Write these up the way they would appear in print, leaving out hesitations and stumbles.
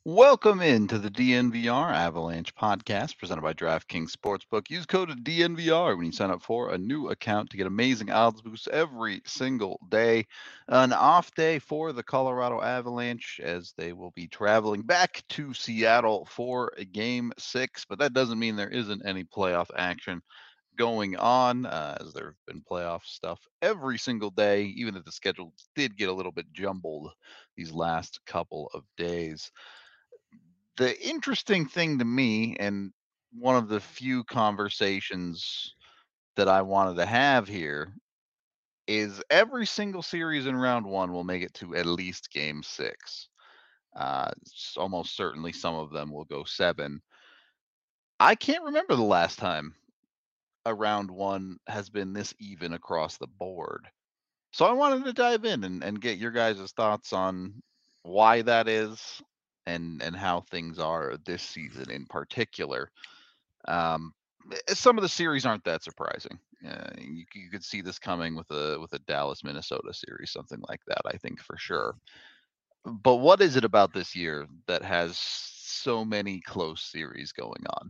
Welcome into the DNVR Avalanche podcast presented by DraftKings Sportsbook. Use code DNVR when you sign up for a new account to get amazing odds boosts every single day. An off day for the Colorado Avalanche as they will be traveling back to Seattle for game 6, but that doesn't mean there isn't any playoff action going on, as there have been playoff stuff every single day, even if the schedule did get a little bit jumbled these last couple of days. The interesting thing to me, and one of the few conversations that I wanted to have here, is every single series in round one will make it to at least game 6. Almost certainly some of them will go 7. I can't remember the last time a round one has been this even across the board. So I wanted to dive in and get your guys' thoughts on why that is and how things are this season in particular. Um, some of the series aren't that surprising. You could see this coming with a Dallas Minnesota series, something like that. I think for sure. But what is it about this year that has so many close series going on?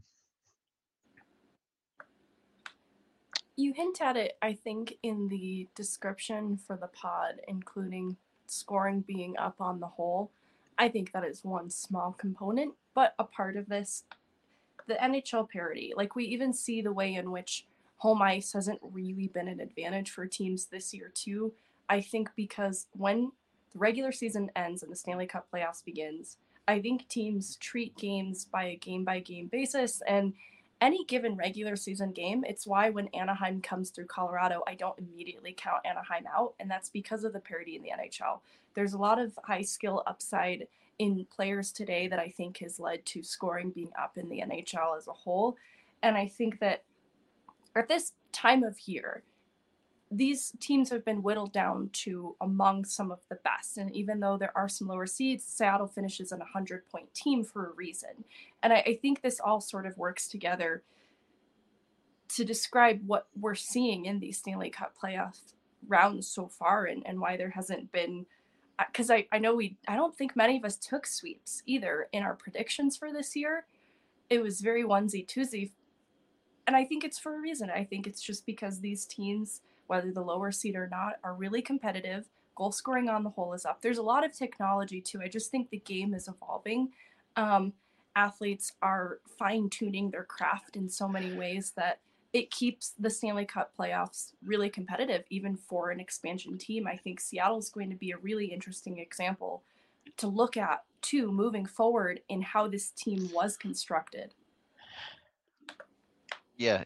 You hint at it, I think, in the description for the pod, including scoring being up on the whole. I think that is one small component, but a part of this, the NHL parity. Like, we even see the way in which home ice hasn't really been an advantage for teams this year, too. I think because when the regular season ends and the Stanley Cup playoffs begins, I think teams treat games by game basis, and any given regular season game, it's why when Anaheim comes through Colorado, I don't immediately count Anaheim out, and that's because of the parity in the NHL. There's a lot of high skill upside in players today that I think has led to scoring being up in the NHL as a whole. And I think that at this time of year, these teams have been whittled down to among some of the best. And even though there are some lower seeds, Seattle finishes an 100-point team for a reason. And I think this all sort of works together to describe what we're seeing in these Stanley Cup playoff rounds so far, and why there hasn't been, because I know I don't think many of us took sweeps either in our predictions for this year. It was very onesie twosie, and I think it's for a reason. I think it's just because these teams, whether the lower seed or not, are really competitive. Goal scoring on the whole is up. There's a lot of technology too. I just think the game is evolving. Um, Athletes are fine tuning their craft in so many ways that it keeps the Stanley Cup playoffs really competitive, even for an expansion team. I think Seattle's going to be a really interesting example to look at too, moving forward in how this team was constructed. Yeah,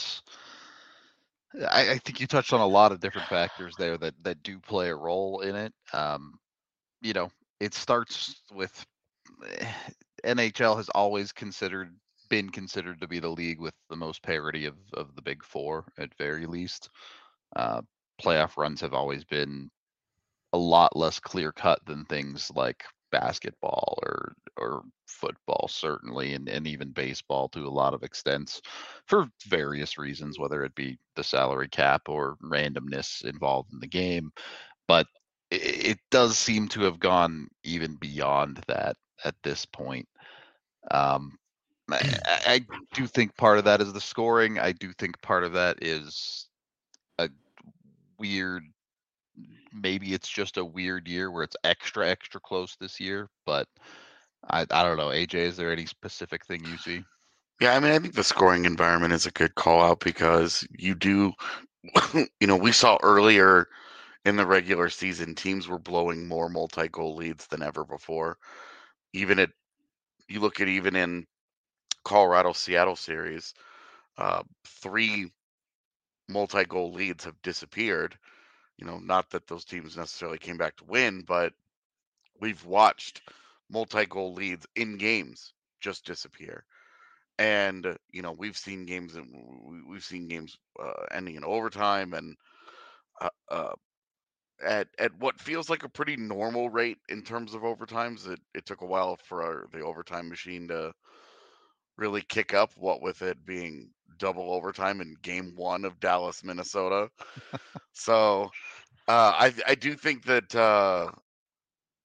I think you touched on a lot of different factors there that do play a role in it. You know, it starts with NHL has always been considered to be the league with the most parity of the big four at very least. Uh, Playoff runs have always been a lot less clear cut than things like basketball or football certainly, and even baseball to a lot of extents for various reasons, whether it be the salary cap or randomness involved in the game. But it does seem to have gone even beyond that at this point. Um, I do think part of that is the scoring. I do think part of that is a weird, maybe it's just a weird year where it's extra close this year. But I don't know. AJ, is there any specific thing you see? Yeah, I mean, I think the scoring environment is a good call out because you do, we saw earlier in the regular season, teams were blowing more multi-goal leads than ever before. Even at, you look at even in Colorado Seattle series, 3 multi-goal leads have disappeared. Not that those teams necessarily came back to win, but we've watched multi-goal leads in games just disappear. And we've seen games ending in overtime, and uh, uh, at what feels like a pretty normal rate in terms of overtimes. It took a while for the overtime machine to really kick up, what with it being double overtime in game 1 of Dallas Minnesota. So I do think that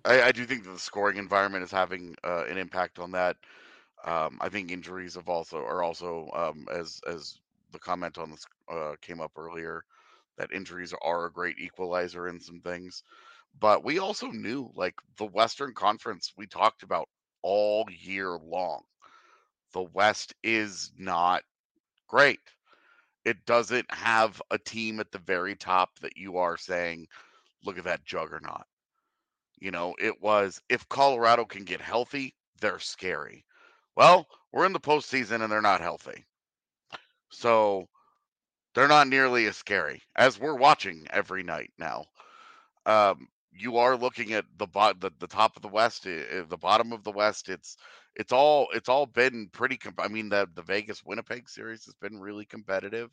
I do think that the scoring environment is having an impact on that. I think injuries are also as the comment on this came up earlier, that injuries are a great equalizer in some things. But we also knew, like, the Western Conference, we talked about all year long. The West is not great. It doesn't have a team at the very top that you are saying, look at that juggernaut. It was, if Colorado can get healthy, they're scary. Well, we're in the postseason and they're not healthy. So they're not nearly as scary as we're watching every night now. You are looking at the top of the West, the bottom of the West. It's all been pretty. I mean, the Vegas Winnipeg series has been really competitive.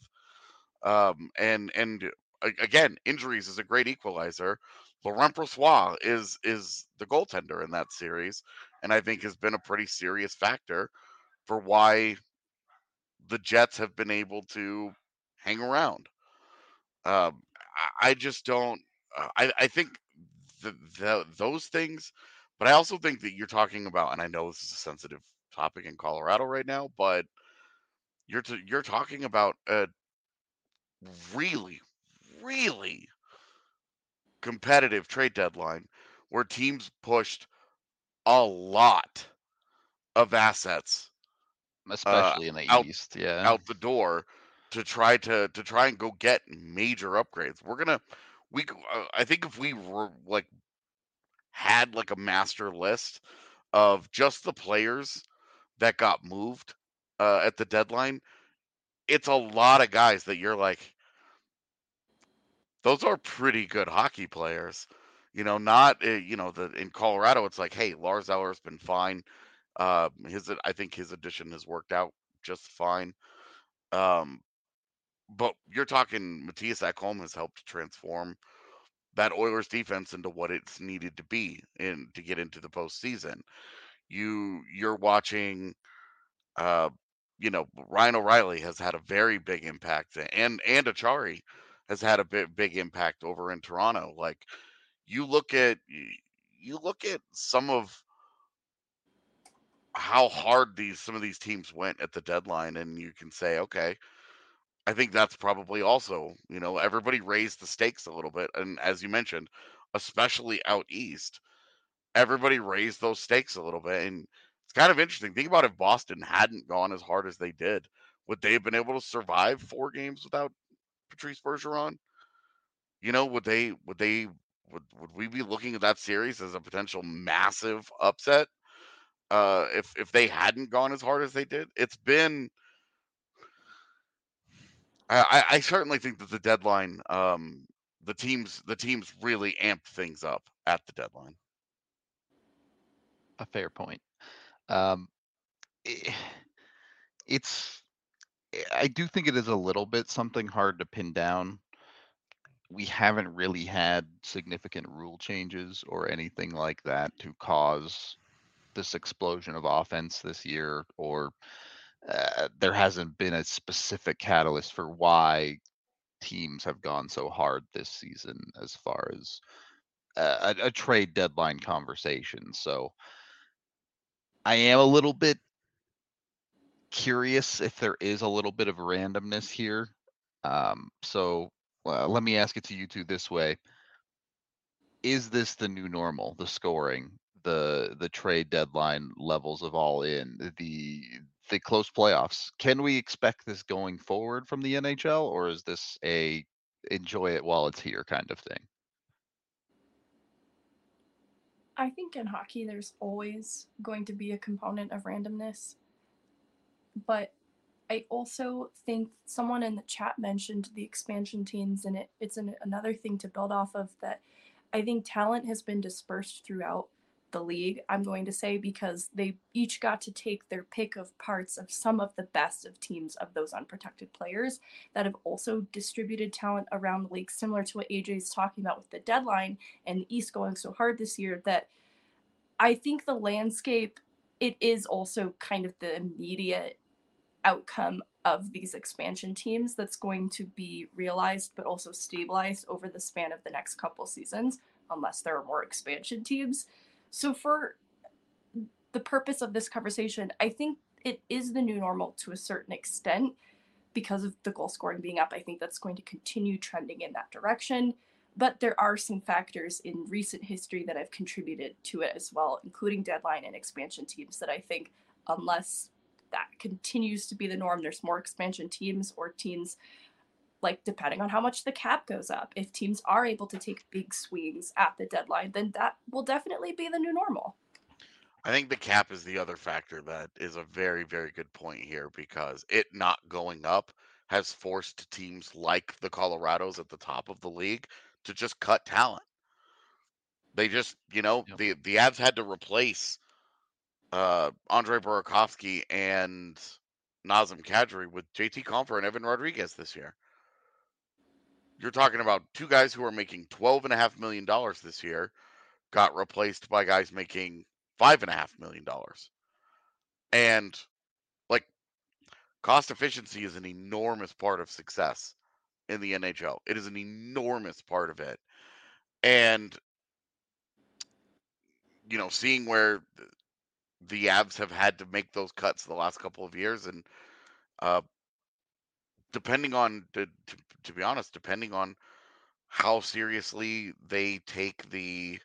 And again, injuries is a great equalizer. Laurent Brossoit is the goaltender in that series, and I think has been a pretty serious factor for why the Jets have been able to hang around. I just don't. I think those things, but I also think that you're talking about, and I know this is a sensitive topic in Colorado right now, but you're talking about a really, really competitive trade deadline where teams pushed a lot of assets uh, especially in the out East. Yeah. out the door to try and go get major upgrades. I think if we were like had like a master list of just the players that got moved at the deadline, it's a lot of guys that you're like, those are pretty good hockey players. Not in Colorado. It's like, hey, Lars Eller's been fine. I think his addition has worked out just fine. Um, but you're talking Matthias Ekholm has helped transform that Oilers defense into what it's needed to be in to get into the postseason. You're watching Ryan O'Reilly has had a very big impact, and Achari has had a big impact over in Toronto. Like, you look at you look at some of how hard some of these teams went at the deadline, and you can say, okay, I think that's probably also, everybody raised the stakes a little bit, and as you mentioned, especially out east, everybody raised those stakes a little bit, and it's kind of interesting. Think about if Boston hadn't gone as hard as they did, would they have been able to survive 4 games without Patrice Bergeron? Would we be looking at that series as a potential massive upset if they hadn't gone as hard as they did? It's been. I certainly think that the deadline, the teams really amped things up at the deadline. A fair point. Um, i- it's I do think it is a little bit something hard to pin down. We haven't really had significant rule changes or anything like that to cause this explosion of offense this year, or there hasn't been a specific catalyst for why teams have gone so hard this season as far as a trade deadline conversation. So I am a little bit curious if there is a little bit of randomness here. So let me ask it to you two this way: is this the new normal? The scoring, the trade deadline levels of all in, the close playoffs. Can we expect this going forward from the NHL, or is this a enjoy it while it's here kind of thing? I think in hockey there's always going to be a component of randomness, but I also think someone in the chat mentioned the expansion teams, and another thing to build off of that. I think talent has been dispersed throughout the league, I'm going to say, because they each got to take their pick of parts of some of the best of teams of those unprotected players that have also distributed talent around the league, similar to what AJ's talking about with the deadline and the East going so hard this year. That I think the landscape, it is also kind of the immediate outcome of these expansion teams that's going to be realized but also stabilized over the span of the next couple seasons, unless there are more expansion teams. So for the purpose of this conversation, I think it is the new normal to a certain extent because of the goal scoring being up. I think that's going to continue trending in that direction. But there are some factors in recent history that have contributed to it as well, including deadline and expansion teams, that I think, unless that continues to be the norm, there's more expansion teams or teams, like depending on how much the cap goes up, if teams are able to take big swings at the deadline, then that will definitely be the new normal. I think the cap is the other factor that is a very, very good point here because it not going up has forced teams like the Colorados at the top of the league to just cut talent. They just, Yep. the Avs had to replace Andre Burakovsky and Nazem Kadri with JT Compher and Evan Rodriguez this year. You're talking about two guys who are making $12.5 million this year got replaced by guys making $5.5 million. And like cost efficiency is an enormous part of success in the NHL. It is an enormous part of it. And seeing where the Avs have had to make those cuts the last couple of years, and depending on to be honest, depending on how seriously they take the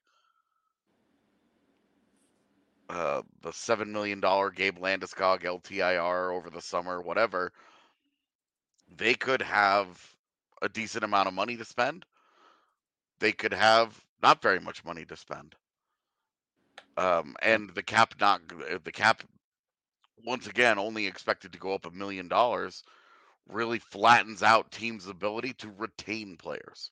$7 million Gabe Landeskog LTIR over the summer, whatever, they could have a decent amount of money to spend. They could have not very much money to spend. And the cap once again only expected to go up $1 million really flattens out teams' ability to retain players.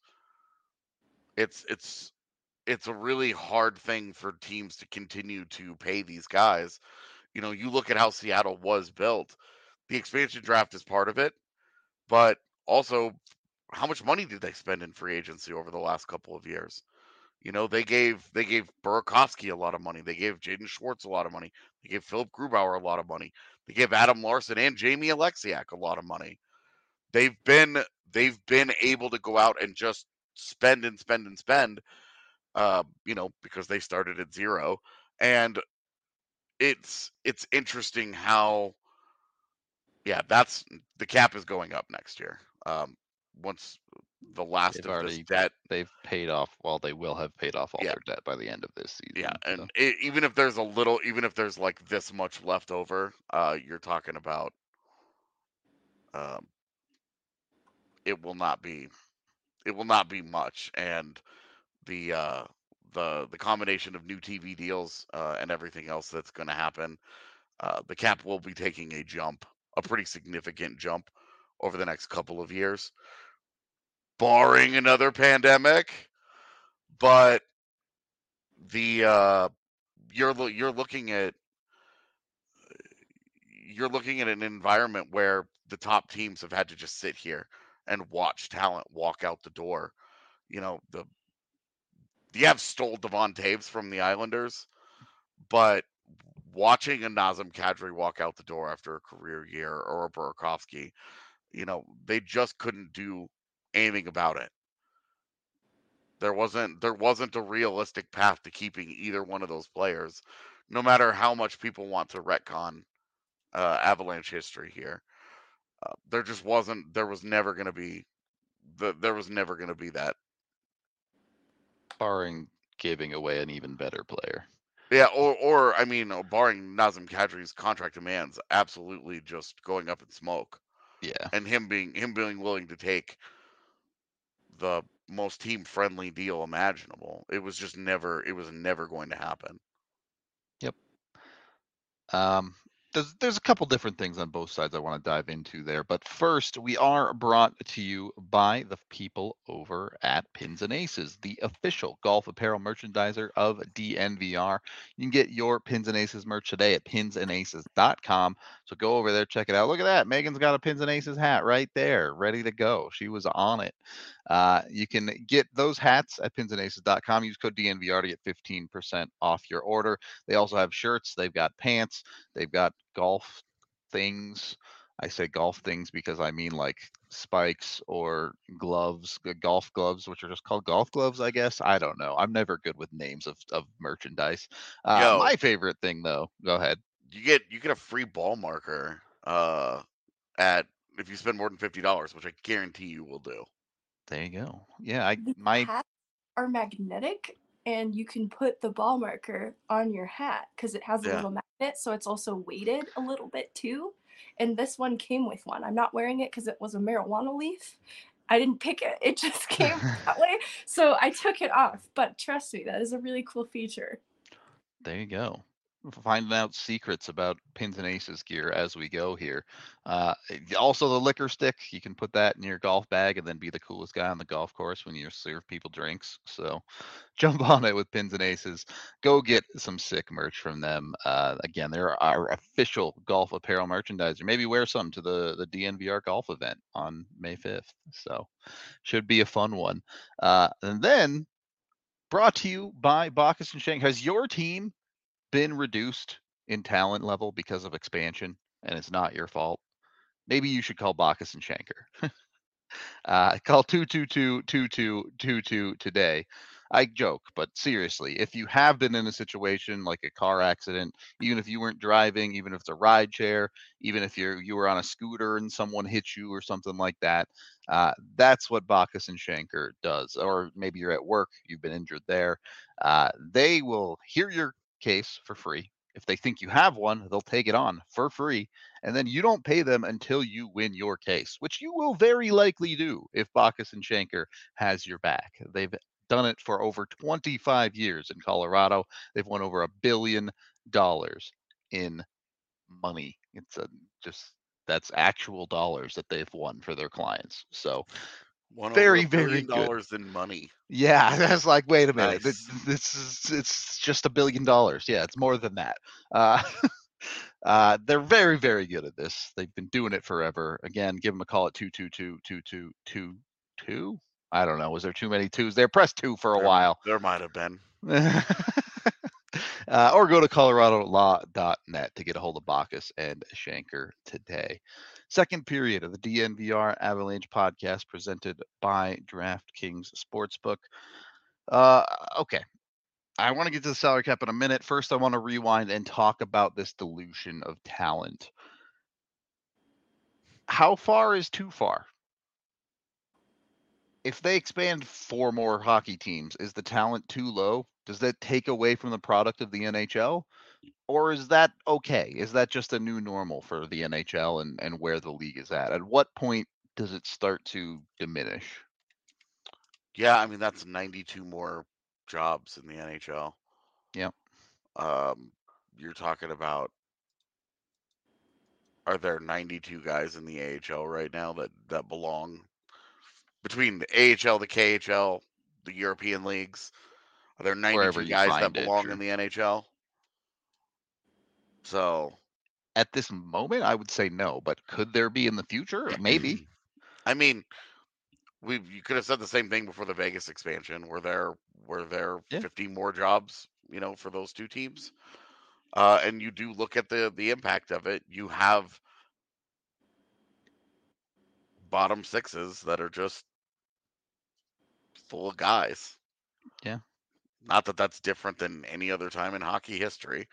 It's a really hard thing for teams to continue to pay these guys. You look at how Seattle was built. The expansion draft is part of it, but also how much money did they spend in free agency over the last couple of years? They gave Burakovsky a lot of money. They gave Jaden Schwartz a lot of money. They gave Philip Grubauer a lot of money. They gave Adam Larson and Jamie Alexiak a lot of money. They've been able to go out and just spend and spend and spend, because they started at zero. And it's interesting how, yeah, that's the cap is going up next year. Once the last of this debt, they've paid off. Well, they will have paid off all Yeah. their debt by the end of this season. yeah, so. and even if there's like this much left over, you're talking about, it will not be much. And the the combination of new TV deals and everything else that's going to happen, the cap will be taking a pretty significant jump over the next couple of years, barring another pandemic. But the you're looking at an environment where the top teams have had to just sit here and watch talent walk out the door. The Avs stole Devon Taves from the Islanders, but watching a Nazem Kadri walk out the door after a career year, or a Burakovsky, they just couldn't do anything about it. There wasn't a realistic path to keeping either one of those players, no matter how much people want to retcon Avalanche history here. There just wasn't. There was never going to be. There was never going to be that. Barring giving away an even better player. Yeah, or I mean, barring Nazem Kadri's contract demands absolutely just going up in smoke. Yeah. And him being willing to take the most team friendly deal imaginable. It was never going to happen. Yep. There's a couple different things on both sides I want to dive into there. But first, we are brought to you by the people over at Pins and Aces, the official golf apparel merchandiser of DNVR. You can get your Pins and Aces merch today at pinsandaces.com. So go over there, check it out. Look at that. Megan's got a Pins and Aces hat right there, ready to go. She was on it. You can get those hats at pinsandaces.com. Use code DNVR to get 15% off your order. They also have shirts. They've got pants. They've got golf things. I say golf things because I mean like spikes or gloves, golf gloves, which are just called golf gloves, I guess. I don't know. I'm never good with names of merchandise. Yo, My favorite thing though, go ahead. you get a free ball marker at if you spend more than $50, which I guarantee you will do. There you go. Yeah, The my hats are magnetic, and you can put the ball marker on your hat because it has a Yeah. little magnet, so it's also weighted a little bit too. And this one came with one. I'm not wearing it because it was a marijuana leaf. I didn't pick it. It just came that way. So I took it off. But trust me, that is a really cool feature. There you go. Finding out secrets about pins and aces gear as we go here. Also, the liquor stick, you can put that in your golf bag and then be the coolest guy on the golf course when you serve people drinks. So jump on it with pins and aces. Go get some sick merch from them. Again, they're our official golf apparel merchandiser. Maybe wear some to the DNVR golf event on May 5th. So should be a fun one. And then brought to you by Bacchus and Shank. Has your team been reduced in talent level because of expansion and it's not your fault? Maybe you should call Bacchus and Shanker. Call 222-2222 today. I joke, but seriously, if you have been in a situation like a car accident, even if you weren't driving, even if it's a ride share, even if you were on a scooter and someone hit you or something like that, that's what Bacchus and Shanker does. Or maybe you're at work, you've been injured there. They will hear your case for free. If they think you have one, they'll take it on for free. And then you don't pay them until you win your case, which you will very likely do if Bacchus and Shanker has your back. They've done it for over 25 years in Colorado. They've won over $1 billion in money. It's just that's actual dollars that they've won for their clients. So Won over very, $1 very billion good. in money. Yeah, that's like, wait a minute. Nice. This is it's just $1 billion. Yeah, it's more than that. Uh, they're very, very good at this. They've been doing it forever. Again, give them a call at 222-2222. I don't know. Was there too many twos there? Press 2 for a while. There might have been. Or go to coloradolaw.net to get a hold of Bacchus and Shanker today. Second period of the DNVR Avalanche podcast presented by DraftKings Sportsbook. Okay. I want to get to the salary cap in a minute. First, I want to rewind and talk about this dilution of talent. How far is too far? If they expand 4 more hockey teams, is the talent too low? Does that take away from the product of the NHL? Or is that okay? Is that just a new normal for the NHL and where the league is at? At what point does it start to diminish? Yeah, I mean that's 92 more jobs in the NHL. Yep. You're talking about, are there 92 guys in the AHL right now that belong between the AHL, the KHL, the European leagues? Are there Wherever 92 you guys that find it, belong sure. in the NHL? So At this moment, I would say no, but could there be in the future? Maybe. I mean, you could have said the same thing before the Vegas expansion. Were there Yeah. 50 more jobs, for those two teams? And you do look at the impact of it. You have bottom sixes that are just full of guys. Yeah. Not that that's different than any other time in hockey history.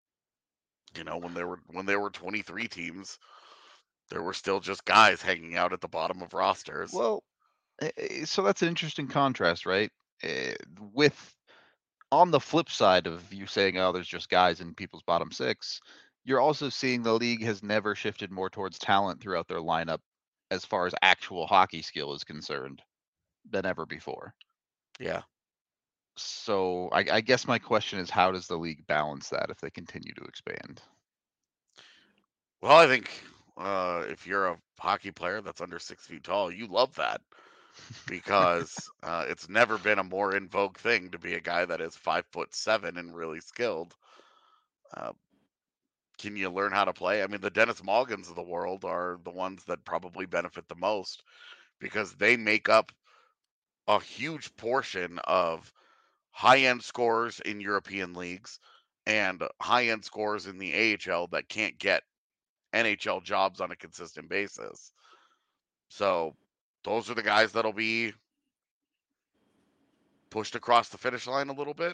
When there were 23 teams, there were still just guys hanging out at the bottom of rosters. Well, so that's an interesting contrast, right? With on the flip side of you saying, "Oh, there's just guys in people's bottom six," you're also seeing the league has never shifted more towards talent throughout their lineup as far as actual hockey skill is concerned than ever before. Yeah. So I guess my question is, how does the league balance that if they continue to expand? Well, I think if you're a hockey player that's under 6 feet tall, you love that because it's never been a more in vogue thing to be a guy that is 5'7" and really skilled. Can you learn how to play? I mean, the Dennis Morgans of the world are the ones that probably benefit the most because they make up a huge portion of high-end scorers in European leagues and high-end scorers in the AHL that can't get NHL jobs on a consistent basis. So those are the guys that'll be pushed across the finish line a little bit.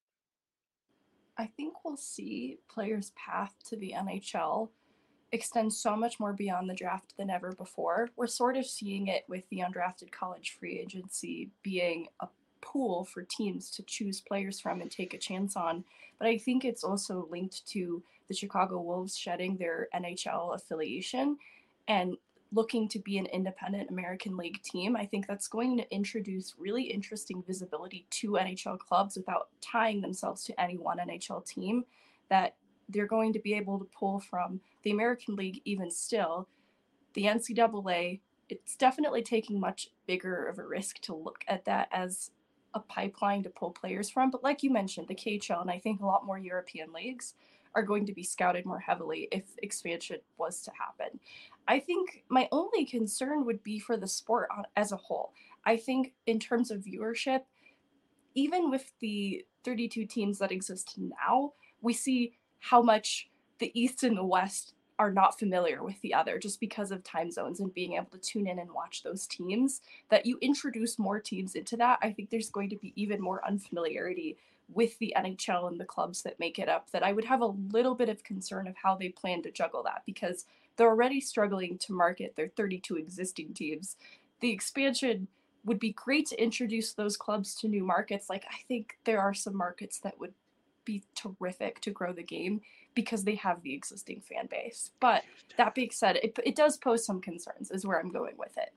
I think we'll see players' path to the NHL extend so much more beyond the draft than ever before. We're sort of seeing it with the undrafted college free agency being a pool for teams to choose players from and take a chance on. But I think it's also linked to the Chicago Wolves shedding their NHL affiliation and looking to be an independent American League team. I think that's going to introduce really interesting visibility to NHL clubs without tying themselves to any one NHL team, that they're going to be able to pull from the American League even still. The NCAA, it's definitely taking much bigger of a risk to look at that as a pipeline to pull players from. But like you mentioned, the KHL and I think a lot more European leagues are going to be scouted more heavily if expansion was to happen. I think my only concern would be for the sport as a whole. I think in terms of viewership, even with the 32 teams that exist now, we see how much the East and the West are not familiar with the other just because of time zones and being able to tune in and watch those teams. That you introduce more teams into that, I think there's going to be even more unfamiliarity with the NHL and the clubs that make it up, that I would have a little bit of concern of how they plan to juggle that, because they're already struggling to market their 32 existing teams. The expansion would be great to introduce those clubs to new markets. Like, I think there are some markets that would be terrific to grow the game because they have the existing fan base. But that being said, it does pose some concerns, is where I'm going with it.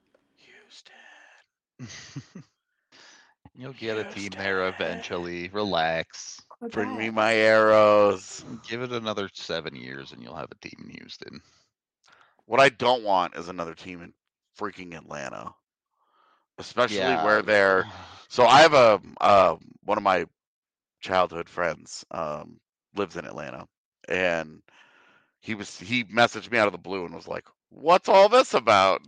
Houston. You'll get a team there eventually. Relax. Bring me my arrows. Give it another 7 years and you'll have a team in Houston. What I don't want is another team in freaking Atlanta, especially where they're. So I have one of my childhood friends lives in Atlanta, and he messaged me out of the blue and was like, "What's all this about?"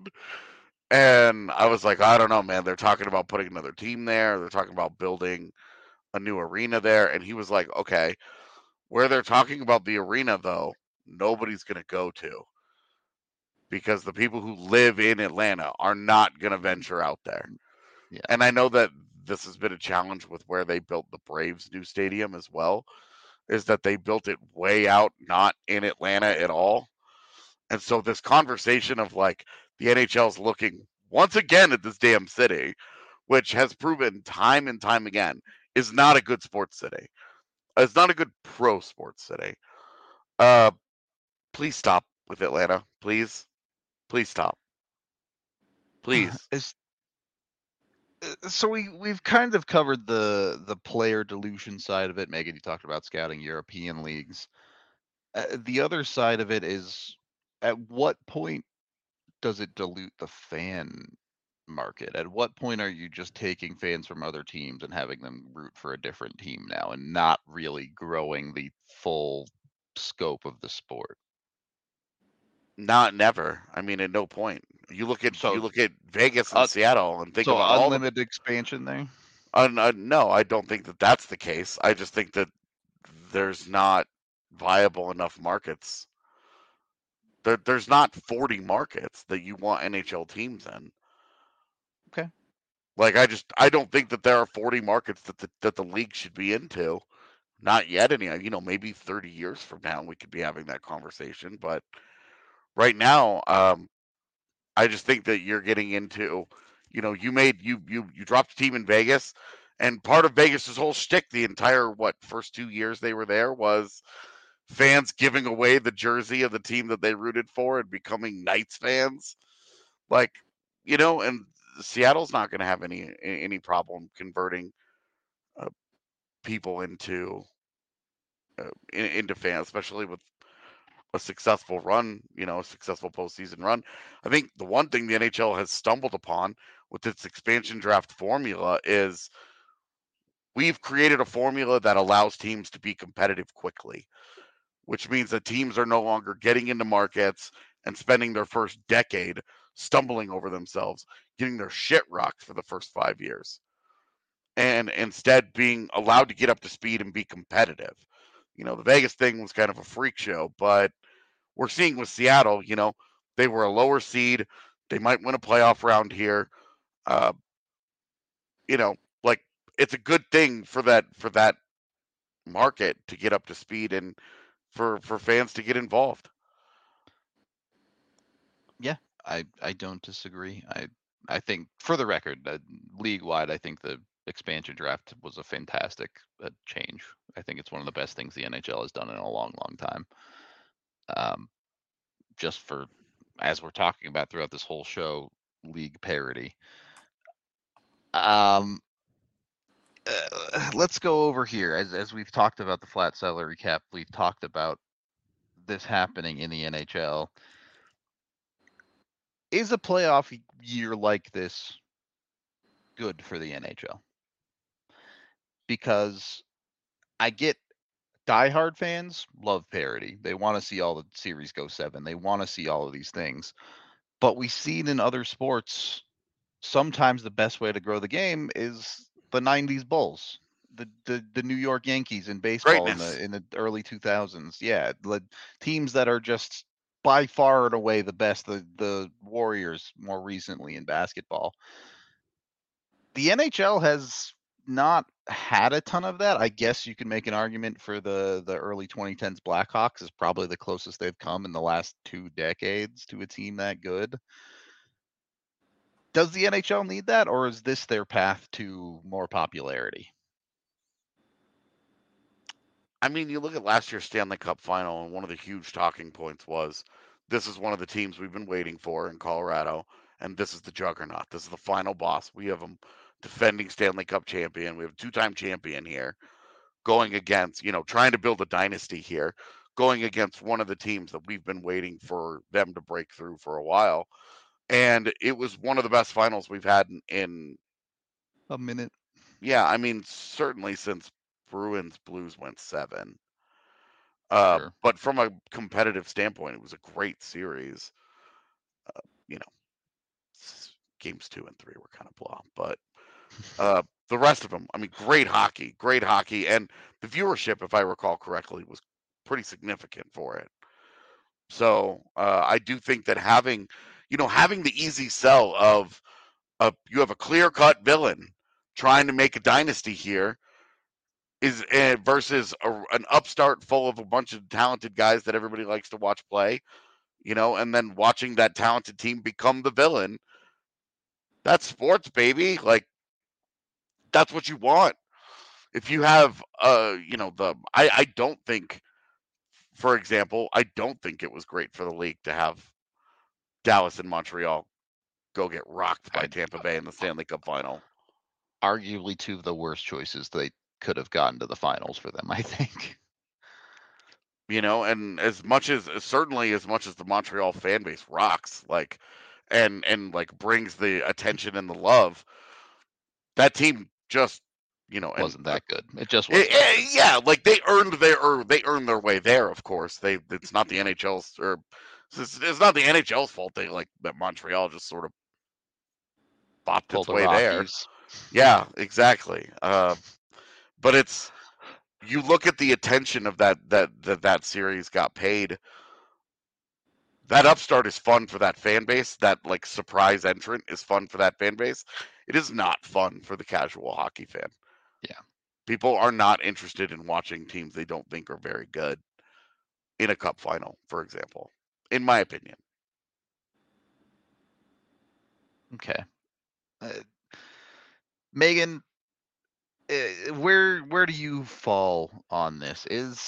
And I was like, "I don't know, man. They're talking about putting another team there. They're talking about building a new arena there." And he was like, "Okay, where they're talking about the arena, though, nobody's going to go to, because the people who live in Atlanta are not going to venture out there." Yeah. And I know that this has been a challenge with where they built the Braves' new stadium as well, is that they built it way out, not in Atlanta at all. And so this conversation of like the NHL's looking once again at this damn city, which has proven time and time again is not a good sports city. It's not a good pro sports city. Please stop with Atlanta, please. Please stop. Please. So we've kind of covered the player dilution side of it. Megan, you talked about scouting European leagues. The other side of it is, at what point does it dilute the fan market? At what point are you just taking fans from other teams and having them root for a different team now and not really growing the full scope of the sport? Never. I mean, at no point. You look at Vegas and Seattle and think about all unlimited expansion there. No, I don't think that that's the case. I just think that there's not viable enough markets. There's not 40 markets that you want NHL teams in. Okay. Like I don't think that there are 40 markets that the league should be into. Not yet. Maybe 30 years from now we could be having that conversation. But right now, I just think that you're getting into, you dropped a team in Vegas, and part of Vegas's whole shtick the entire first 2 years they were there was fans giving away the jersey of the team that they rooted for and becoming Knights fans. Like, and Seattle's not going to have any problem converting people into fans, especially with a successful run, a successful postseason run. I think the one thing the NHL has stumbled upon with its expansion draft formula is we've created a formula that allows teams to be competitive quickly, which means that teams are no longer getting into markets and spending their first decade stumbling over themselves, getting their shit rocked for the first 5 years, and instead being allowed to get up to speed and be competitive. The Vegas thing was kind of a freak show, but we're seeing with Seattle, they were a lower seed. They might win a playoff round here. Uh, like it's a good thing for that market to get up to speed and for fans to get involved. Yeah, I don't disagree. I think, for the record, league wide, I think the expansion draft was a fantastic change. I think it's one of the best things the NHL has done in a long, long time. Just for, as we're talking about throughout this whole show, league parity. Let's go over here. As we've talked about the flat salary cap, we've talked about this happening in the NHL. Is a playoff year like this good for the NHL? Because I get diehard fans love parity. They want to see all the series go 7. They want to see all of these things. But we've seen in other sports, sometimes the best way to grow the game is the 90s Bulls, the New York Yankees in baseball Greatness. in the early 2000s. Yeah, the teams that are just by far and away the best, the Warriors more recently in basketball. The NHL has not had a ton of that. I guess you can make an argument for the early 2010s Blackhawks is probably the closest they've come in the last 2 decades to a team that good. Does the NHL need that, or is this their path to more popularity? I mean, you look at last year's Stanley Cup final, and one of the huge talking points was this is one of the teams we've been waiting for in Colorado, and this is the juggernaut. This is the final boss. We have a defending Stanley Cup champion. We have a 2-time champion here going against, trying to build a dynasty here, going against one of the teams that we've been waiting for them to break through for a while. And it was one of the best finals we've had in a minute. Yeah, I mean, certainly since Bruins Blues went 7. Sure. But from a competitive standpoint, it was a great series. You know, games 2 and 3 were kind of blah, but the rest of them, I mean, great hockey, and the viewership, if I recall correctly, was pretty significant for it. So I do think that having the easy sell of you have a clear-cut villain trying to make a dynasty here is versus an upstart full of a bunch of talented guys that everybody likes to watch play, and then watching that talented team become the villain. That's sports, baby. Like, that's what you want. If you have, I don't think, for example, I don't think it was great for the league to have Dallas and Montreal go get rocked by Tampa Bay in the Stanley Cup final. Arguably 2 of the worst choices they could have gotten to the finals for them, I think. And as much as the Montreal fan base rocks, like, and like brings the attention and the love, that team just, wasn't that good. It just wasn't. Yeah, like they earned their way there. Of course, it's not the NHL's or it's not the NHL's fault. They like that Montreal just sort of bopped its way there. Yeah, exactly. But it's, you look at the attention of that series got paid. That upstart is fun for that fan base. That like surprise entrant is fun for that fan base. It is not fun for the casual hockey fan. Yeah. People are not interested in watching teams they don't think are very good in a cup final, for example, in my opinion. Okay. Megan, where do you fall on this?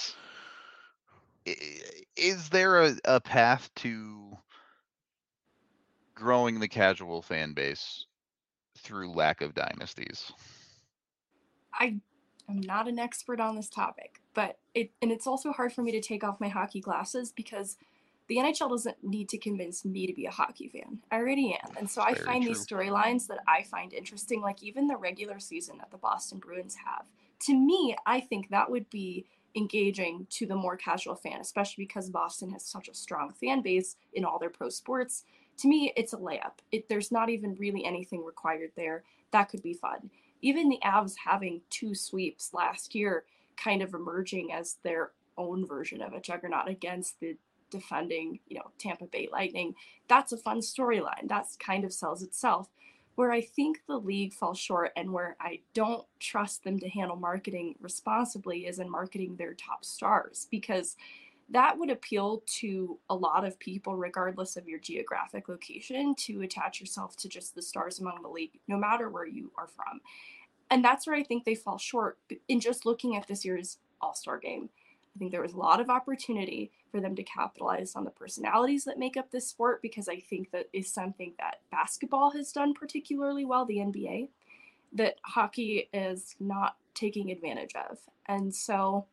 Is there a path to growing the casual fan base through lack of dynasties? I am not an expert on this topic, but it's also hard for me to take off my hockey glasses because the NHL doesn't need to convince me to be a hockey fan. I already am. And so I find these storylines that I find interesting, like even the regular season that the Boston Bruins have. To me, I think that would be engaging to the more casual fan, especially because Boston has such a strong fan base in all their pro sports. To me, it's a layup. There's not even really anything required there. That could be fun. Even the Avs having 2 sweeps last year, kind of emerging as their own version of a juggernaut against the defending, Tampa Bay Lightning. That's a fun storyline. That's kind of sells itself. Where I think the league falls short and where I don't trust them to handle marketing responsibly is in marketing their top stars, because that would appeal to a lot of people, regardless of your geographic location, to attach yourself to just the stars among the league, no matter where you are from. And that's where I think they fall short in just looking at this year's All-Star game. I think there was a lot of opportunity for them to capitalize on the personalities that make up this sport, because I think that is something that basketball has done particularly well, the NBA, that hockey is not taking advantage of. And so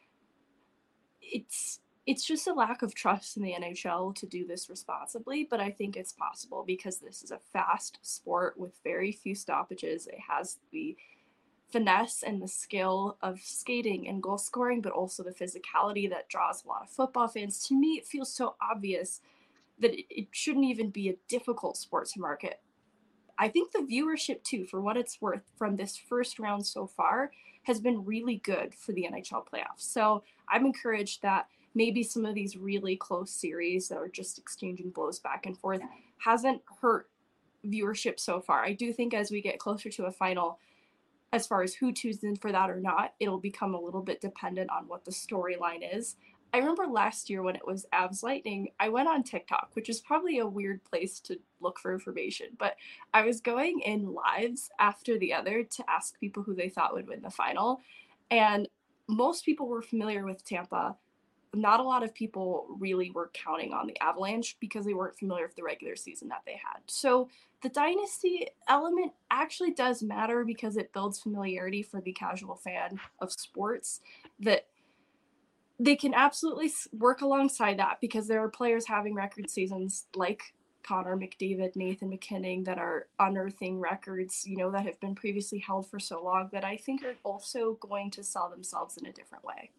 it's just a lack of trust in the NHL to do this responsibly, but I think it's possible because this is a fast sport with very few stoppages. It has the finesse and the skill of skating and goal scoring, but also the physicality that draws a lot of football fans. To me, it feels so obvious that it shouldn't even be a difficult sport to market. I think the viewership, too, for what it's worth from this first round so far, has been really good for the NHL playoffs. So I'm encouraged that maybe some of these really close series that are just exchanging blows back and forth hasn't hurt viewership so far. I do think as we get closer to a final, as far as who tunes in for that or not, it'll become a little bit dependent on what the storyline is. I remember last year when it was Avs Lightning, I went on TikTok, which is probably a weird place to look for information, but I was going in lives after the other to ask people who they thought would win the final. And most people were familiar with Tampa. Not a lot of people really were counting on the Avalanche because they weren't familiar with the regular season that they had. So the dynasty element actually does matter because it builds familiarity for the casual fan of sports, that they can absolutely work alongside that, because there are players having record seasons like Connor McDavid, Nathan MacKinnon, that are unearthing records, that have been previously held for so long, that I think are also going to sell themselves in a different way.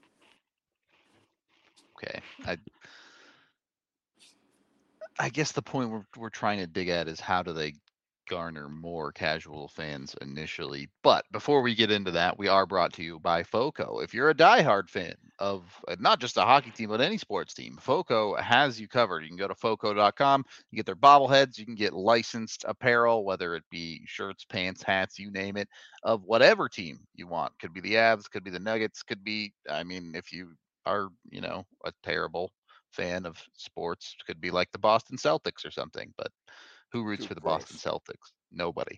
Okay. I guess the point we're trying to dig at is how do they garner more casual fans initially. But before we get into that, we are brought to you by FOCO. If you're a diehard fan of not just a hockey team, but any sports team, FOCO has you covered. You can go to FOCO.com, you get their bobbleheads, you can get licensed apparel, whether it be shirts, pants, hats, you name it, of whatever team you want. Could be the Avs, could be the Nuggets, could be, if you are, a terrible fan of sports, could be like the Boston Celtics or something, but who roots for the Boston Celtics? Nobody.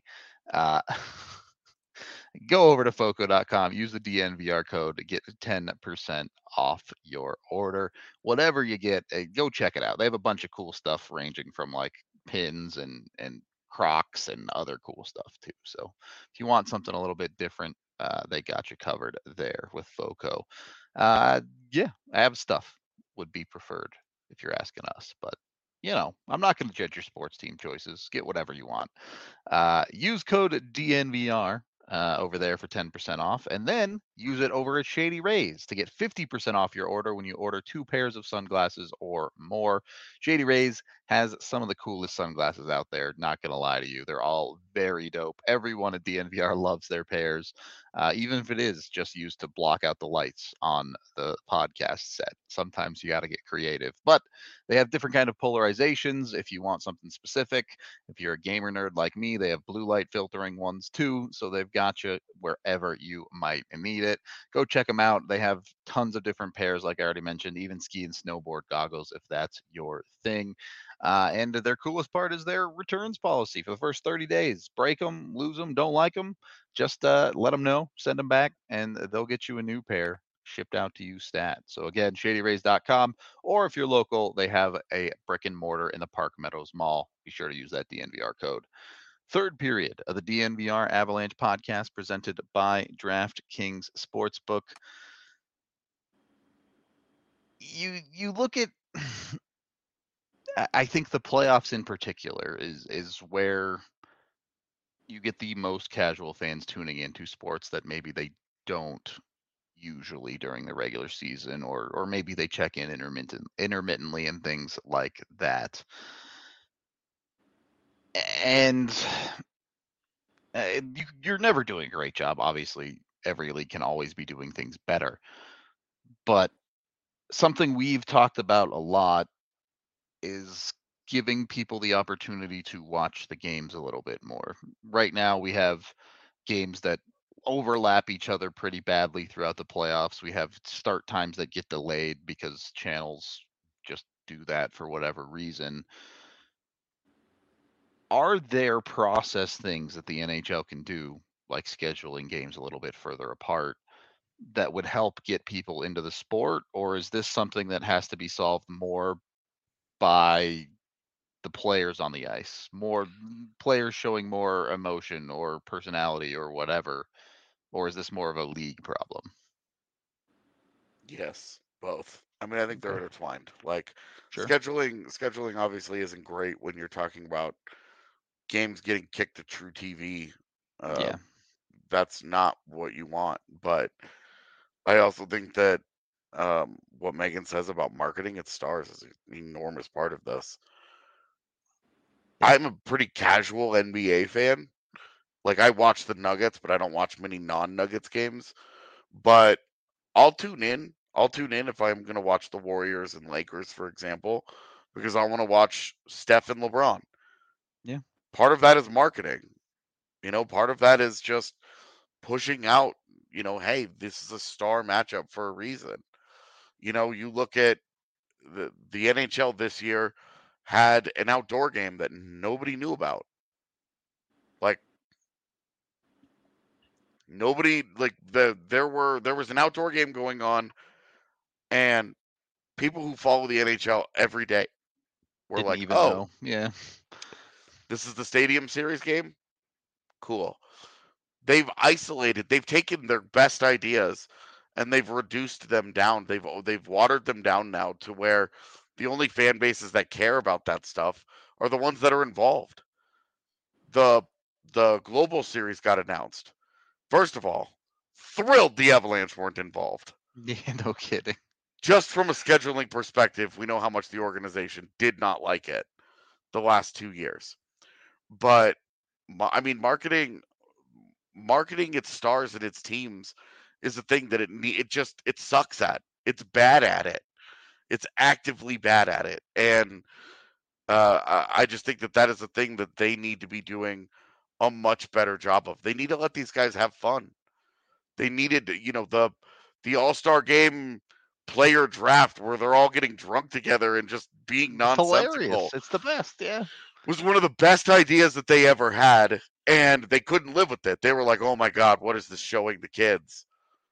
Go over to FOCO.com, use the DNVR code to get 10% off your order. Whatever you get, go check it out. They have a bunch of cool stuff ranging from like pins and Crocs and other cool stuff too. So if you want something a little bit different, they got you covered there with FOCO. Av stuff would be preferred if you're asking us, but I'm not going to judge your sports team choices. Get whatever you want. Use code DNVR over there for 10% off, and then use it over at Shady Rays to get 50% off your order when you order 2 pairs of sunglasses or more. Shady Rays has some of the coolest sunglasses out there, not going to lie to you. They're all very dope. Everyone at DNVR loves their pairs, even if it is just used to block out the lights on the podcast set. Sometimes you got to get creative, but they have different kind of polarizations if you want something specific. If you're a gamer nerd like me, they have blue light filtering ones too, so they've got you wherever you might need it. Go check them out. They have tons of different pairs, like I already mentioned, even ski and snowboard goggles if that's your thing. And their coolest part is their returns policy for the first 30 days. Break them, lose them, don't like them, just let them know, send them back, and they'll get you a new pair shipped out to you stat. So again, shadyrays.com, or if you're local, they have a brick and mortar in the Park Meadows Mall. Be sure to use that DNVR code. Third period of the DNVR Avalanche podcast presented by DraftKings Sportsbook. You look at I think the playoffs in particular is where you get the most casual fans tuning into sports that maybe they don't usually during the regular season, or maybe they check in intermittently and things like that. And you're never doing a great job. Obviously, every league can always be doing things better. But something we've talked about a lot is giving people the opportunity to watch the games a little bit more. Right now, we have games that overlap each other pretty badly throughout the playoffs. We have start times that get delayed because channels just do that for whatever reason. Are there process things that the NHL can do, like scheduling games a little bit further apart, that would help get people into the sport? Or is this something that has to be solved more by the players on the ice, more players showing more emotion or personality or whatever? Or is this more of a league problem? Yes, both. I mean, I think they're Okay, intertwined. Like sure. scheduling obviously isn't great when you're talking about games getting kicked to True TV. Uh, Yeah. that's not what you want. But I also think that what Megan says about marketing its stars is an enormous part of this. Yeah. I'm a pretty casual NBA fan. Like I watch the Nuggets, but I don't watch many non-Nuggets games. But I'll tune in. I'll tune in if I'm going to watch the Warriors and Lakers, for example, because I want to watch Steph and LeBron. Yeah. Part of that is marketing. Part of that is just pushing out, hey, this is a star matchup for a reason. You look at the NHL this year had an outdoor game that nobody knew about. Like nobody like there was an outdoor game going on, and people who follow the NHL every day were Didn't like, even "Oh, know. Yeah. this is the Stadium Series game? Cool." They've taken their best ideas and they've reduced them down. They've watered them down now to where the only fan bases that care about that stuff are the ones that are involved. The the Global Series got announced. First of all, thrilled the Avalanche weren't involved. Yeah, no kidding. Just from a scheduling perspective, we know how much the organization did not like it the last 2 years. But I mean, marketing its stars and its teams is a thing that it sucks at. It's bad at it. It's actively bad at it, and I just think that is a thing that they need to be doing a much better job of. They need to let these guys have fun. They needed, the All Star Game player draft where they're all getting drunk together and just being It's hilarious. nonsensical It's the best. Yeah. was one of the best ideas that they ever had, and they couldn't live with it. They were like, "Oh my god, what is this showing the kids?"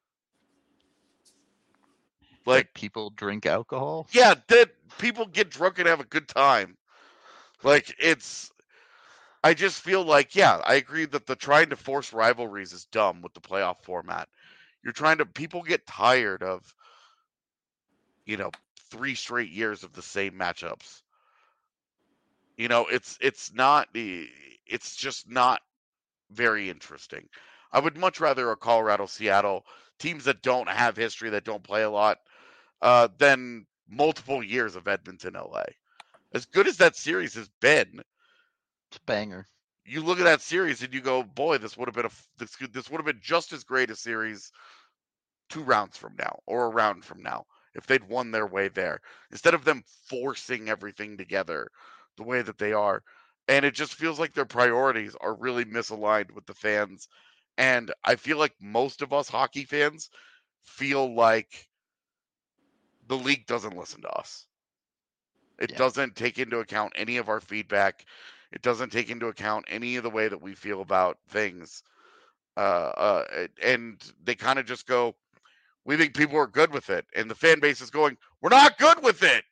Like, That people drink alcohol. yeah, that people get drunk and have a good time. Like, I just feel like, yeah, I agree that the trying to force rivalries is dumb with the playoff format. People get tired of, you know, 3 straight years of the same matchups. It's just not very interesting. I would much rather a Colorado Seattle teams that don't have history, that don't play a lot, than multiple years of Edmonton LA. As good as that series has been, It's a banger. you look at that series and you go, boy, this would have been this would have been just as great a series 2 rounds from now or a round from now if they'd won their way there instead of them forcing everything together the way that they are. And it just feels like their priorities are really misaligned with the fans. And I feel like most of us hockey fans feel like the league doesn't listen to us. It Yeah. doesn't take into account any of our feedback. It doesn't take into account any of the way that we feel about things. And they kind of just go, we think people are good with it. And the fan base is going, we're not good with it.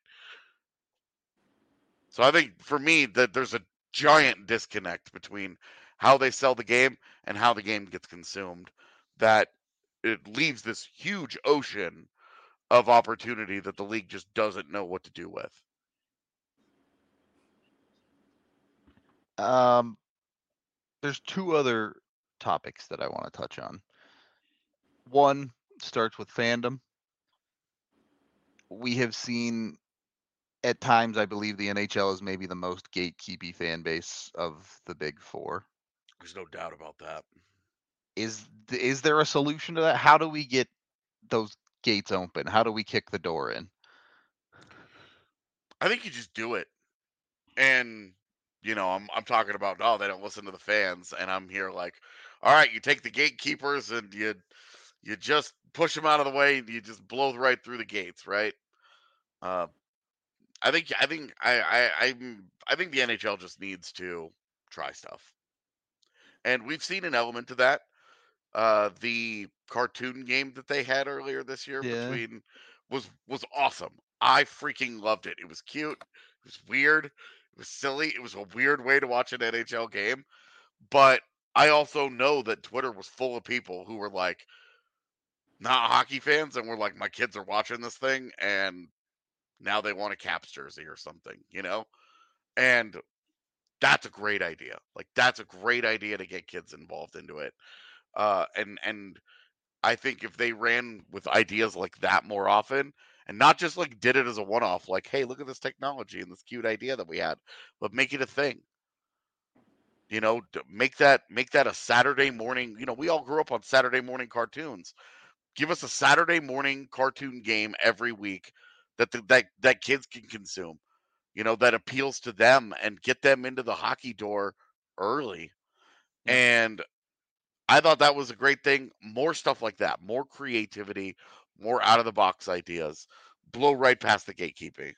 So I think for me that there's a giant disconnect between how they sell the game and how the game gets consumed, that it leaves this huge ocean of opportunity that the league just doesn't know what to do with. Um, there's two other topics that I want to touch on. One starts with fandom. We have seen at times, I believe the NHL is maybe the most gatekeepy fan base of the big four. There's no doubt about that. Is there a solution to that? How do we get those gates open? How do we kick the door in? I think you just do it. And I'm talking about, oh, they don't listen to the fans, and I'm here like, all right, you take the gatekeepers and you just push them out of the way, and you just blow right through the gates, right? Uh, I think the NHL just needs to try stuff, and we've seen an element of that. The cartoon game that they had earlier this year Yeah. between was awesome. I freaking loved it. It was cute. It was weird. It was silly. It was a weird way to watch an NHL game. But I also know that Twitter was full of people who were like not hockey fans and were like, my kids are watching this thing and now they want a Caps jersey or something. And that's a great idea. Like that's a great idea to get kids involved into it. And I think if they ran with ideas like that more often and not just like did it as a one off, like, hey, look at this technology and this cute idea that we had, but make it a thing. Make that a Saturday morning. We all grew up on Saturday morning cartoons. Give us a Saturday morning cartoon game every week that kids can consume. That appeals to them and get them into the hockey door early. Yeah. And I thought that was a great thing. More stuff like that, more creativity, more out of the box ideas. Blow right past the gatekeeping.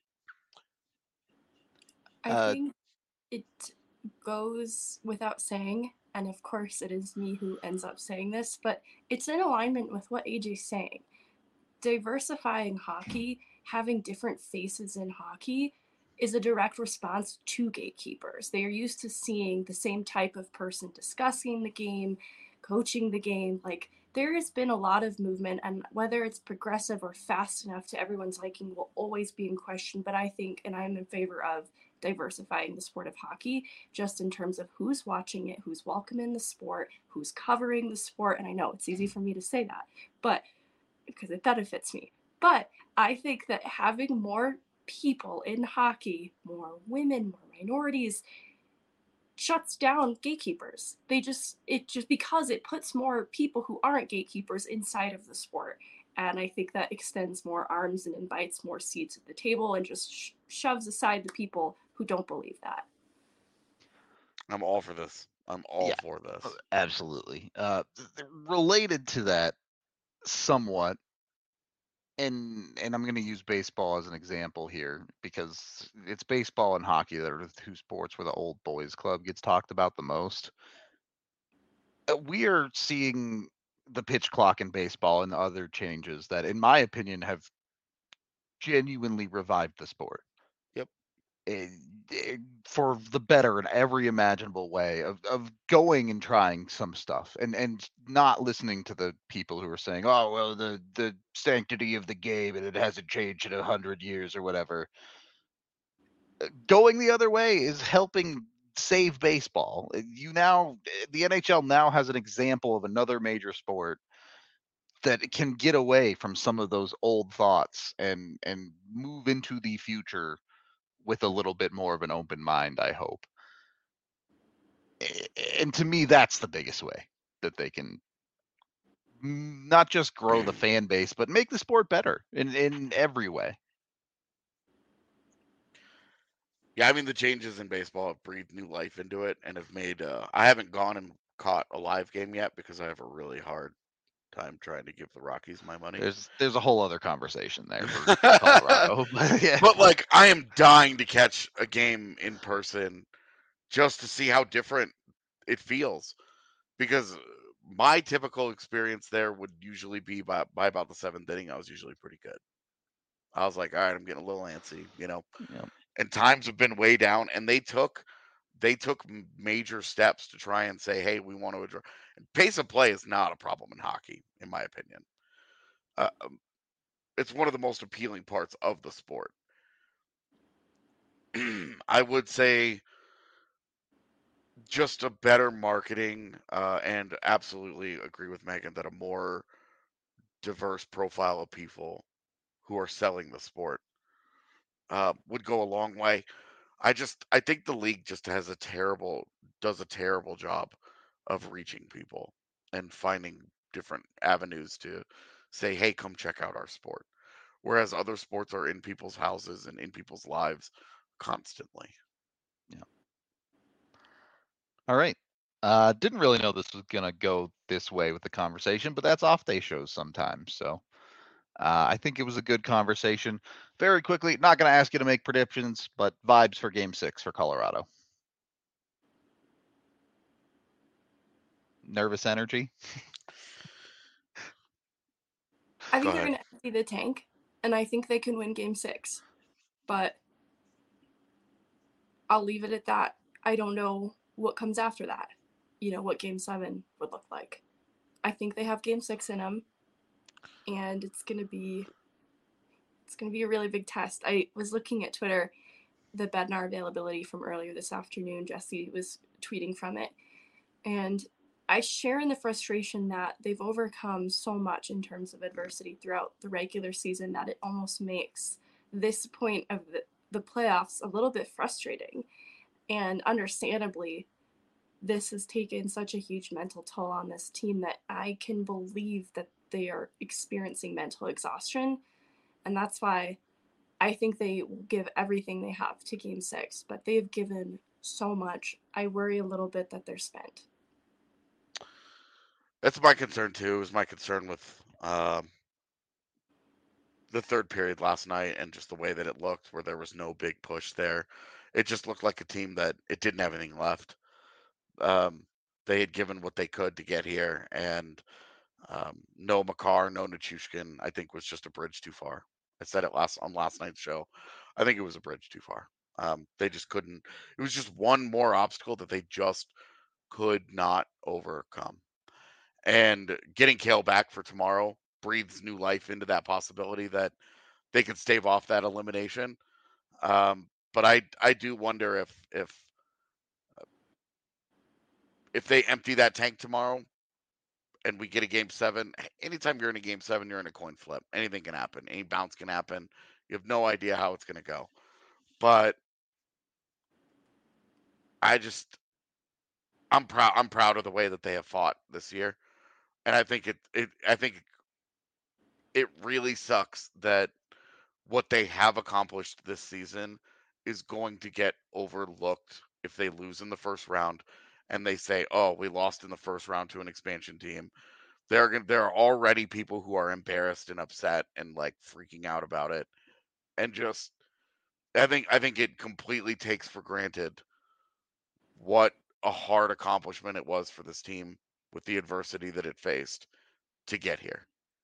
I Uh, think it goes without saying, and of course it is me who ends up saying this, but it's in alignment with what AJ's saying. Diversifying hockey, having different faces in hockey, is a direct response to gatekeepers. They are used to seeing the same type of person discussing the game, coaching the game. Like, there has been a lot of movement, and whether it's progressive or fast enough to everyone's liking will always be in question. But I think, and I'm in favor of diversifying the sport of hockey, just in terms of who's watching it, who's welcoming the sport, who's covering the sport. And I know it's easy for me to say that, but because it benefits me. But I think that having more people in hockey, more women, more minorities, shuts down gatekeepers. It just because it puts more people who aren't gatekeepers inside of the sport. And I think that extends more arms and invites more seats at the table and just shoves aside the people who don't believe that. I'm all for this. I'm all yeah, for this. absolutely. Related to that somewhat, and I'm going to use baseball as an example here because it's baseball and hockey that are the two sports where the old boys club gets talked about the most. We are seeing the pitch clock in baseball and other changes that, in my opinion, have genuinely revived the sport. Yep. eh, for the better in every imaginable way of going and trying some stuff and not listening to the people who are saying, oh well, the sanctity of the game and it hasn't changed in 100 years or whatever. Going the other way is helping save baseball. The NHL now has an example of another major sport that can get away from some of those old thoughts and move into the future with a little bit more of an open mind, I hope. And to me, that's the biggest way that they can not just grow the fan base, but make the sport better in every way. Yeah, I mean the changes in baseball have breathed new life into it and have made. I haven't gone and caught a live game yet because I have a really hard time trying to give the Rockies my money. There's a whole other conversation there for Colorado, but yeah, But like, I am dying to catch a game in person just to see how different it feels. Because my typical experience there would usually be by about the seventh inning, I was usually pretty good. I was like, all right, I'm getting a little antsy. yeah. And times have been way down, and they took major steps to try and say, hey, we want to address. Pace of play is not a problem in hockey, in my opinion. Uh, it's one of the most appealing parts of the sport. I would say just a better marketing, and absolutely agree with Megan that a more diverse profile of people who are selling the sport would go a long way. I think the league just does a terrible job of reaching people and finding different avenues to say, hey, come check out our sport. whereas other sports are in people's houses and in people's lives constantly. Yeah. All right. Didn't really know this was gonna go this way with the conversation, but that's off day shows sometimes. So I think it was a good conversation. Very quickly, not gonna ask you to make predictions, but vibes for Game 6 for Colorado. Nervous energy. I Go think they're ahead. going to empty the tank, and I think they can win Game 6. But I'll leave it at that. I don't know what comes after that. What Game 7 would look like. I think they have Game 6 in them, and it's going to be a really big test. I was looking at Twitter, the Bednar availability from earlier this afternoon. Jesse was tweeting from it, and I share in the frustration that they've overcome so much in terms of adversity throughout the regular season that it almost makes this point of the playoffs a little bit frustrating. And understandably, this has taken such a huge mental toll on this team that I can believe that they are experiencing mental exhaustion. And that's why I think they give everything they have to Game 6, but they've given so much. I worry a little bit that they're spent. That's my concern too. It was my concern with the third period last night and just the way that it looked, where there was no big push there. It just looked like a team that it didn't have anything left. They had given what they could to get here, and no Makar, no Nichushkin, I think was just a bridge too far. I said it on last night's show. I think it was a bridge too far. They just couldn't. It was just one more obstacle that they just could not overcome. And getting Kale back for tomorrow breathes new life into that possibility that they could stave off that elimination. But I do wonder if they empty that tank tomorrow and we get a Game 7. Anytime you're in a Game 7, you're in a coin flip. Anything can happen. Any bounce can happen. You have no idea how it's going to go. But I'm proud. I'm proud of the way that they have fought this year, and I think it really sucks that what they have accomplished this season is going to get overlooked if they lose in the first round and they say, "Oh, we lost in the first round to an expansion team." There are already people who are embarrassed and upset and like freaking out about it, and just I think it completely takes for granted what a hard accomplishment it was for this team with the adversity that it faced to get here.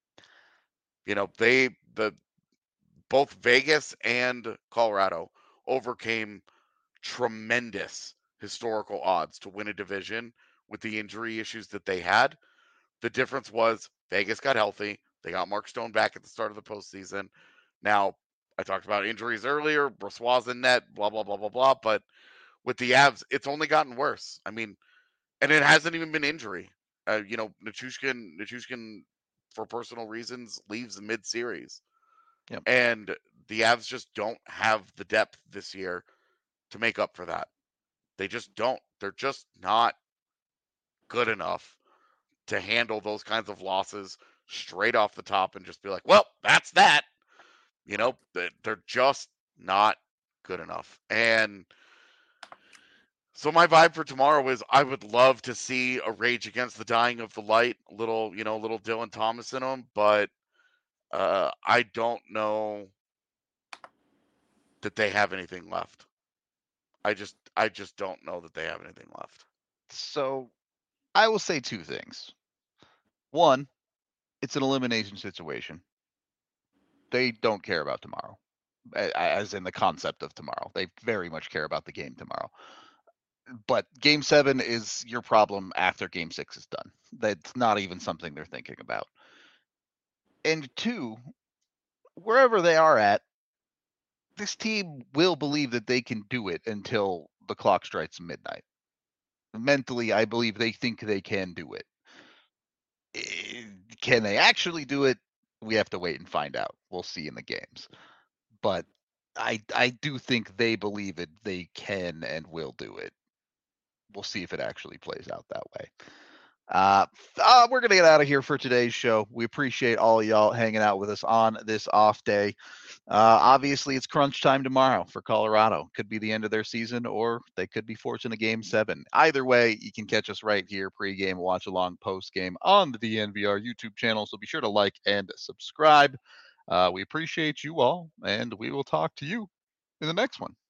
Both Vegas and Colorado overcame tremendous historical odds to win a division with the injury issues that they had. The difference was Vegas got healthy. They got Mark Stone back at the start of the postseason. Now, I talked about injuries earlier, Brossois in net, blah, blah, blah, blah, blah. But with the Avs, it's only gotten worse. I mean, and it hasn't even been injury. Nichushkin, for personal reasons, leaves mid-series. Yep. And the Avs just don't have the depth this year to make up for that. They just don't. They're just not good enough to handle those kinds of losses straight off the top and just be like, well, that's that. They're just not good enough. And so my vibe for tomorrow is I would love to see a Rage Against the Dying of the Light, little Dylan Thomas in them, but I don't know that they have anything left. I just don't know that they have anything left. So I will say two things. One, it's an elimination situation. They don't care about tomorrow, as in the concept of tomorrow. They very much care about the game tomorrow. But Game 7 is your problem after Game 6 is done. That's not even something they're thinking about. And two, wherever they are at, this team will believe that they can do it until the clock strikes midnight. Mentally, I believe they think they can do it. Can they actually do it? We have to wait and find out. We'll see in the games. But I do think they believe it. They can and will do it. We'll see if it actually plays out that way. We're going to get out of here for today's show. We appreciate all of y'all hanging out with us on this off day. Obviously, it's crunch time tomorrow for Colorado. Could be the end of their season, or they could be forcing a Game 7. Either way, you can catch us right here, pregame, watch along, postgame on the DNVR YouTube channel. So be sure to like and subscribe. We appreciate you all, and we will talk to you in the next one.